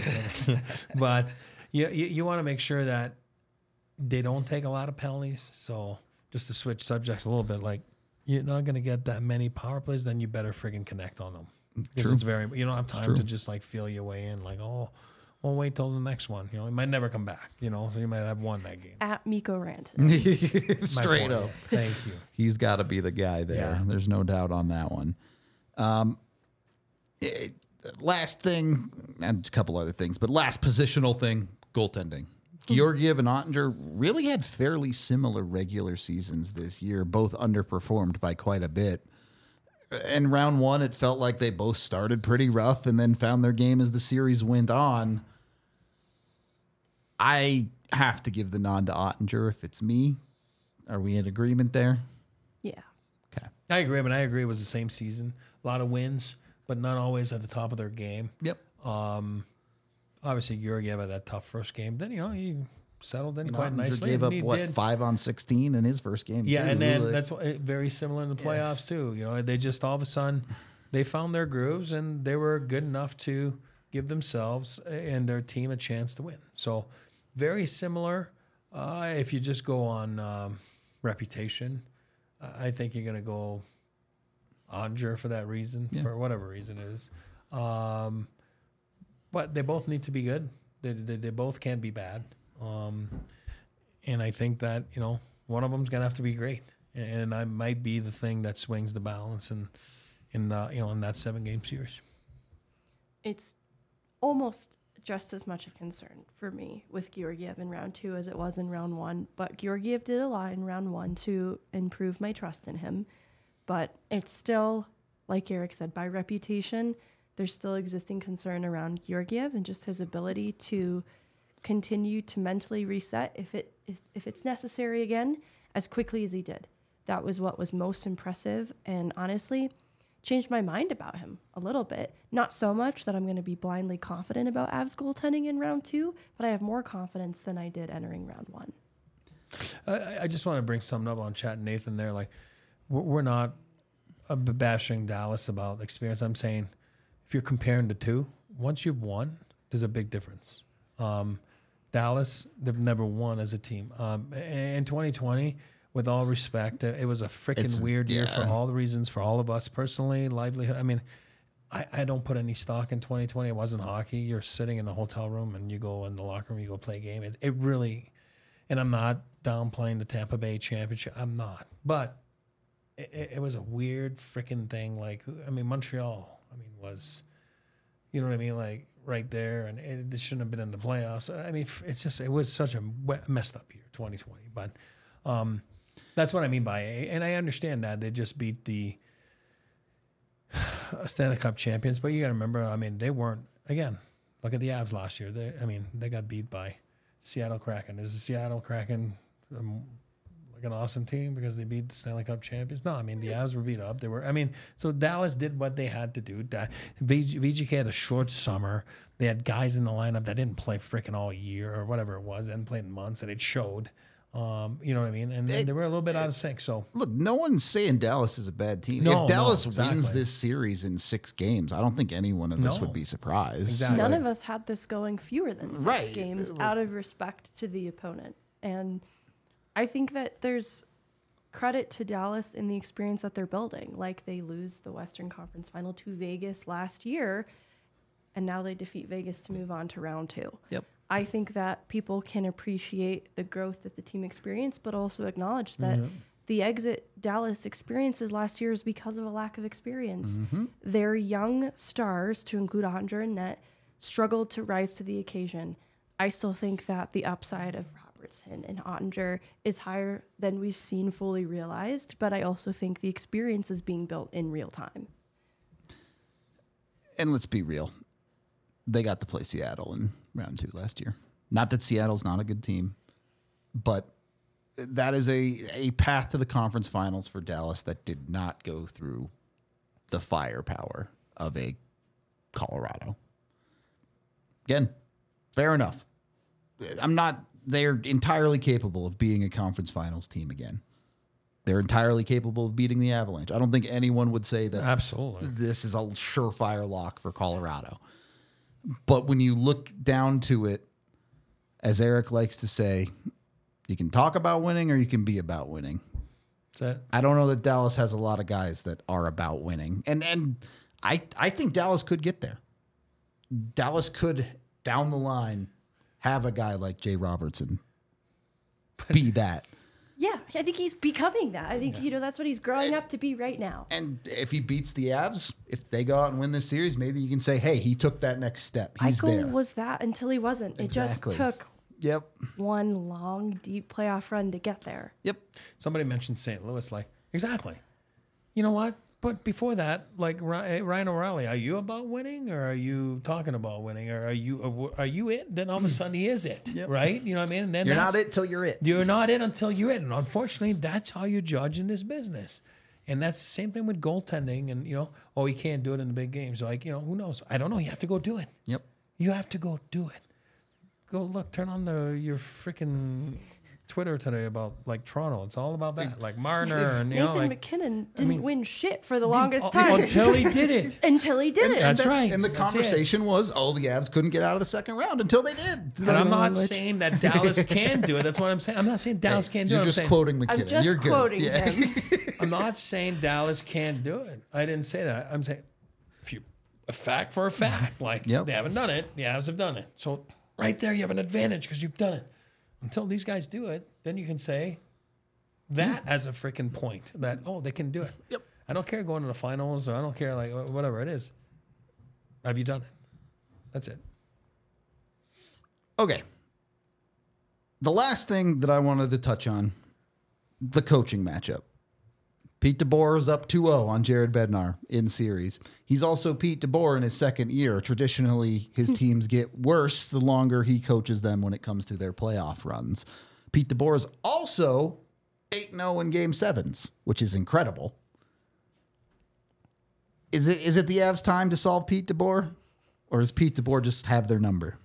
but you, you, you want to make sure that they don't take a lot of penalties. So just to switch subjects a little bit, like you're not going to get that many power plays, then you better friggin' connect on them. Because True. it's very, you don't have time true. to just like feel your way in. Like, oh, well, wait till the next one. You know, it might never come back. You know, so you might have won that game. At Miko Rant. My Straight point. up. Thank you. He's got to be the guy there. Yeah. There's no doubt on that one. Um, it- last thing, and a couple other things, but last positional thing, goaltending. Georgiev and Ottinger really had fairly similar regular seasons this year, both underperformed by quite a bit. In round one, it felt like they both started pretty rough and then found their game as the series went on. I have to give the nod to Ottinger if it's me. Are we in agreement there? Yeah. Okay. I agree, but I agree it was the same season. A lot of wins, but not always at the top of their game. Yep. Um, obviously, Georgiev had that tough first game. Then, you know, he settled in And quite Ottinger nicely. gave and up, he what, did- five on sixteen in his first game? Yeah, too. and then Like, that's what, eh, very similar in the playoffs, too. You know, they just all of a sudden, they found their grooves and they were good enough to give themselves and their team a chance to win. So very similar. Uh, if you just go on um, reputation, I think you're going to go Onger for that reason, Yeah. for whatever reason it is. Um, but they both need to be good. They, they, they both can't be bad. Um, and I think that, you know, one of them's going to have to be great. And I might be the thing that swings the balance in, in the, you know, in that seven game series. It's almost just as much a concern for me with Georgiev in round two as it was in round one. But Georgiev did a lot in round one to improve my trust in him. But it's still, like Eric said, by reputation, there's still existing concern around Georgiev and just his ability to continue to mentally reset if it if it's necessary again as quickly as he did. That was what was most impressive, and honestly changed my mind about him a little bit. Not so much that I'm going to be blindly confident about Avs goaltending in round two, but I have more confidence than I did entering round one. I, I just want to bring something up on chat, Nathan. There, like we're, we're not uh, bashing Dallas about experience. I'm saying if you're comparing the two, once you've won, there's a big difference. Um, Dallas, they've never won as a team. Um, in twenty twenty, with all respect, it was a freaking It's- weird year yeah. for all the reasons, for all of us personally, livelihood. I mean, I, I don't put any stock in twenty twenty. It wasn't hockey. You're sitting in the hotel room and you go in the locker room, you go play a game. It, it really, and I'm not downplaying the Tampa Bay championship. I'm not. But it, it, it was a weird freaking thing. Like, I mean, Montreal, I mean, was, you know what I mean? Like, right there, and it, it shouldn't have been in the playoffs. I mean, it's just, it was such a messed up year, twenty twenty. But um, that's what I mean by it. And I understand that. They just beat the Stanley Cup champions. But you got to remember, I mean, they weren't, again, look at the Avs last year. They, I mean, they got beat by Seattle Kraken. Is the Seattle Kraken um, like an awesome team because they beat the Stanley Cup champions? No, I mean, the Avs were beat up. They were, I mean, so Dallas did what they had to do. Da- V G K had a short summer. They had guys in the lineup that didn't play freaking all year or whatever it was. They hadn't played in months, and it showed. Um, you know what I mean? And, and they were a little bit out of sync. So Look, no one's saying Dallas is a bad team. No, if Dallas no, exactly. wins this series in six games, I don't think any one of us No. would be surprised. Exactly. None of us had this going fewer than six Right. games Like- out of respect to the opponent. And I think that there's credit to Dallas in the experience that they're building. Like they lose the Western Conference Final to Vegas last year, and now they defeat Vegas to move on to round two. Yep. I think that people can appreciate the growth that the team experienced, but also acknowledge that the exit Dallas experiences last year is because of a lack of experience. Their young stars, to include Onger and Net, struggled to rise to the occasion. I still think that the upside of Robertson and Ottinger is higher than we've seen fully realized, but I also think the experience is being built in real time. And let's be real. They got to play Seattle in round two last year. Not that Seattle's not a good team, but that is a, a path to the conference finals for Dallas that did not go through the firepower of a Colorado. Again, fair enough. I'm not, they're entirely capable of being a conference finals team again. They're entirely capable of beating the Avalanche. I don't think anyone would say that absolutely. this is a surefire lock for Colorado. But when you look down to it, as Eric likes to say, you can talk about winning or you can be about winning. That's it. I don't know that Dallas has a lot of guys that are about winning. And and I I think Dallas could get there. Dallas could, down the line, have a guy like Jay Robertson be that. Yeah, I think he's becoming that. I think, you know, that's what he's growing up to be right now. And if he beats the Avs, if they go out and win this series, maybe you can say, hey, he took that next step. He's Eichel there. was that until he wasn't. It Exactly. just took Yep. one long, deep playoff run to get there. Yep. Somebody mentioned Saint Louis. Like, exactly. You know what? But before that, like Ry- Ryan O'Reilly, are you about winning, or are you talking about winning, or are you are you it? Then all of a sudden he is it, Yep. right? You know what I mean? And then You're that's- not it till you're it. You're not it until you're it. And unfortunately, that's how you judge in this business. And that's the same thing with goaltending. And, you know, oh, he can't do it in the big games. Like, you know, who knows? I don't know. You have to go do it. Yep. You have to go do it. Go look, turn on the your freaking Twitter today about like Toronto. It's all about that, like Marner and you Nathan know, like McKinnon didn't mean, win shit for the longest uh, time until he did it. until he did it. That's and that- right. And the That's conversation was, oh, the Avs couldn't get out of the second round until they did. And I'm not Which- saying that Dallas can do it. That's what I'm saying. I'm not saying Dallas can't do it. You're I'm just saying, quoting McKinnon. I'm just You're good. quoting Yeah. him. I'm not saying Dallas can't do it. I didn't say that. I'm saying if you a fact for a fact, like Yep. they haven't done it, the Avs have done it. So right there, you have an advantage because you've done it. Until these guys do it, then you can say that as a freaking point that oh they can do it. Yep. I don't care going to the finals or I don't care like wh- whatever it is. Have you done it? That's it. Okay. The last thing that I wanted to touch on, the coaching matchup. Pete DeBoer is up two oh on Jared Bednar in series. He's also Pete DeBoer in his second year. Traditionally, his teams get worse the longer he coaches them when it comes to their playoff runs. Pete DeBoer is also eight and oh in game sevens, which is incredible. Is it is it the Avs' time to solve Pete DeBoer? Or does Pete DeBoer just have their number?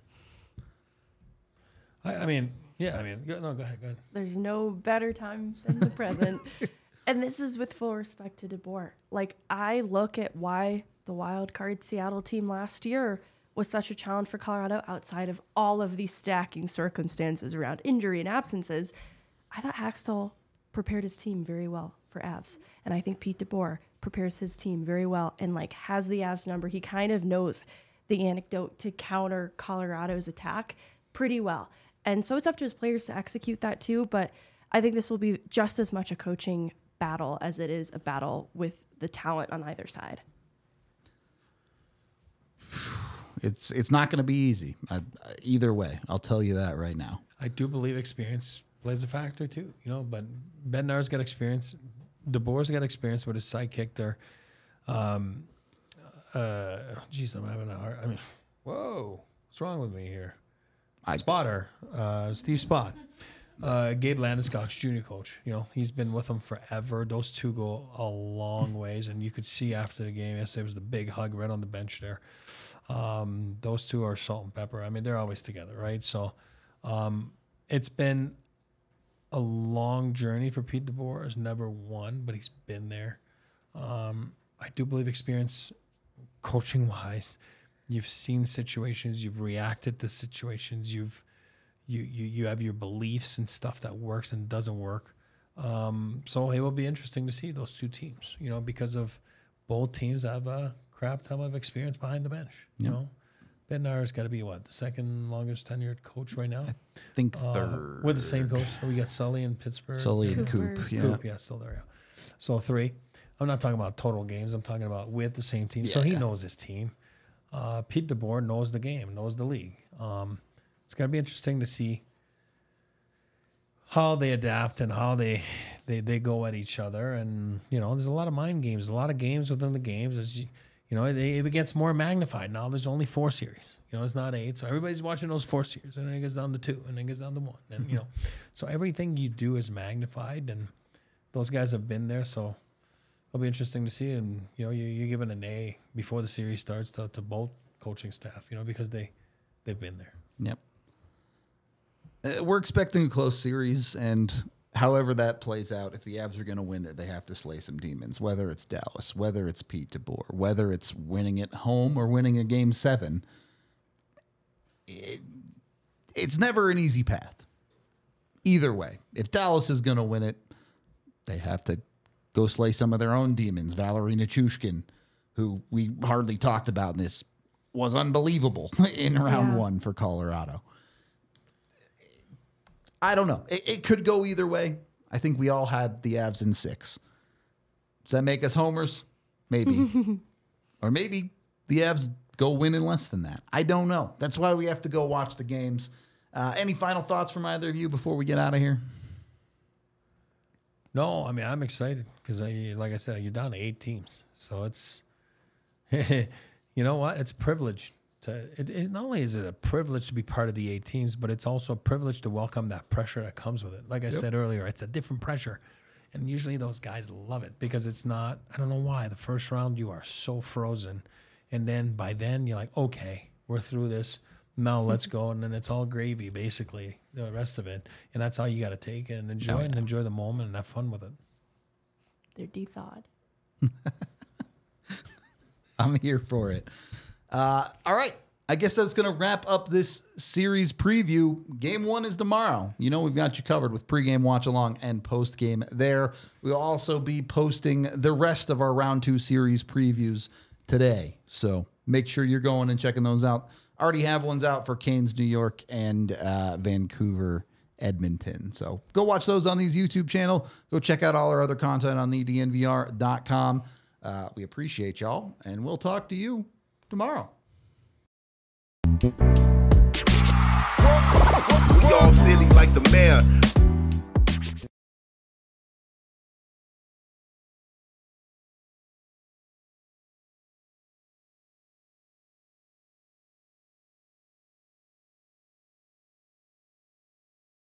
I, I mean, yeah, I mean, go, no, go ahead, go ahead. There's no better time than the present. And this is with full respect to DeBoer. Like, I look at why the wild card Seattle team last year was such a challenge for Colorado outside of all of these stacking circumstances around injury and absences. I thought Haxtell prepared his team very well for Avs. And I think Pete DeBoer prepares his team very well and, like, has the Avs number. He kind of knows the anecdote to counter Colorado's attack pretty well. And so it's up to his players to execute that too. But I think this will be just as much a coaching battle as it is a battle with the talent on either side. It's it's not going to be easy uh, either way. I'll tell you that right now. I do believe experience plays a factor too, you know, but Bednar's got experience. DeBoer's got experience with his sidekick there. Um, uh, geez, I'm having a hard, I mean, whoa, what's wrong with me here? I Spotter, uh, Steve Spott, uh, Gabe Landeskog's junior coach. You know, he's been with them forever. Those two go a long ways, and you could see after the game yesterday was the big hug right on the bench there. Um, those two are salt and pepper. I mean, they're always together, right? So um, it's been a long journey for Pete DeBoer. He's never won, but he's been there. Um, I do believe experience, coaching wise. You've seen situations, you've reacted to situations, you've you you you have your beliefs and stuff that works and doesn't work. Um, so it will be interesting to see those two teams, you know, because of both teams have a crap ton of experience behind the bench. You Yep. know, Bednar's got to be what the second longest tenured coach right now. I think Uh, third. with the same coach. So we got Sully in Pittsburgh. Sully and Cooper. Coop. Yeah. Coop, yeah, still there. Yeah. So three. I'm not talking about total games. I'm talking about with the same team. so he Yeah. knows his team. Uh, Pete DeBoer knows the game, knows the league. Um, it's going to be interesting to see how they adapt and how they, they they go at each other. And, you know, there's a lot of mind games, a lot of games within the games. As you, you know, it, it gets more magnified. Now there's only four series. You know, it's not eight. So everybody's watching those four series. And then it goes down to two. And then it goes down to one. And, you know, so everything you do is magnified. And those guys have been there. So it'll be interesting to see. And, you know, you, you're giving an A before the series starts to, to both coaching staff, you know, because they, they've been there. Yep. Uh, we're expecting a close series, and however that plays out, if the Avs are going to win it, they have to slay some demons, whether it's Dallas, whether it's Pete DeBoer, whether it's winning at home or winning a game seven. It, it's never an easy path. Either way, if Dallas is going to win it, they have to go slay some of their own demons. Valerie Nichushkin, who we hardly talked about in this, was unbelievable in round Yeah. one for Colorado. I don't know. It, it could go either way. I think we all had the Avs in six. Does that make us homers? Maybe. Or maybe the Avs go win in less than that. I don't know. That's why we have to go watch the games. Uh, any final thoughts from either of you before we get out of here? No, I mean, I'm excited because, I, like I said, you're down to eight teams. So it's, you know what? It's a privilege. To, it, it, not only is it a privilege to be part of the eight teams, but it's also a privilege to welcome that pressure that comes with it. Like I Yep. said earlier, it's a different pressure. And usually those guys love it because it's not, I don't know why, the first round you are so frozen. And then by then you're like, okay, we're through this. Now let's go, and then it's all gravy, basically, the rest of it. And that's how you got to take it and enjoy Oh, it yeah. and enjoy the moment and have fun with it. They're de-thawed. I'm here for it. Uh, all right. I guess that's going to wrap up this series preview. Game one is tomorrow. You know, we've got you covered with pregame watch along and postgame there. We'll also be posting the rest of our round two series previews today. So make sure you're going and checking those out. Already have ones out for Canes, New York, and uh, Vancouver, Edmonton. So go watch those on these YouTube channel. Go check out all our other content on the D N V R dot com. Uh, we appreciate y'all, and we'll talk to you tomorrow. We all silly like the mayor.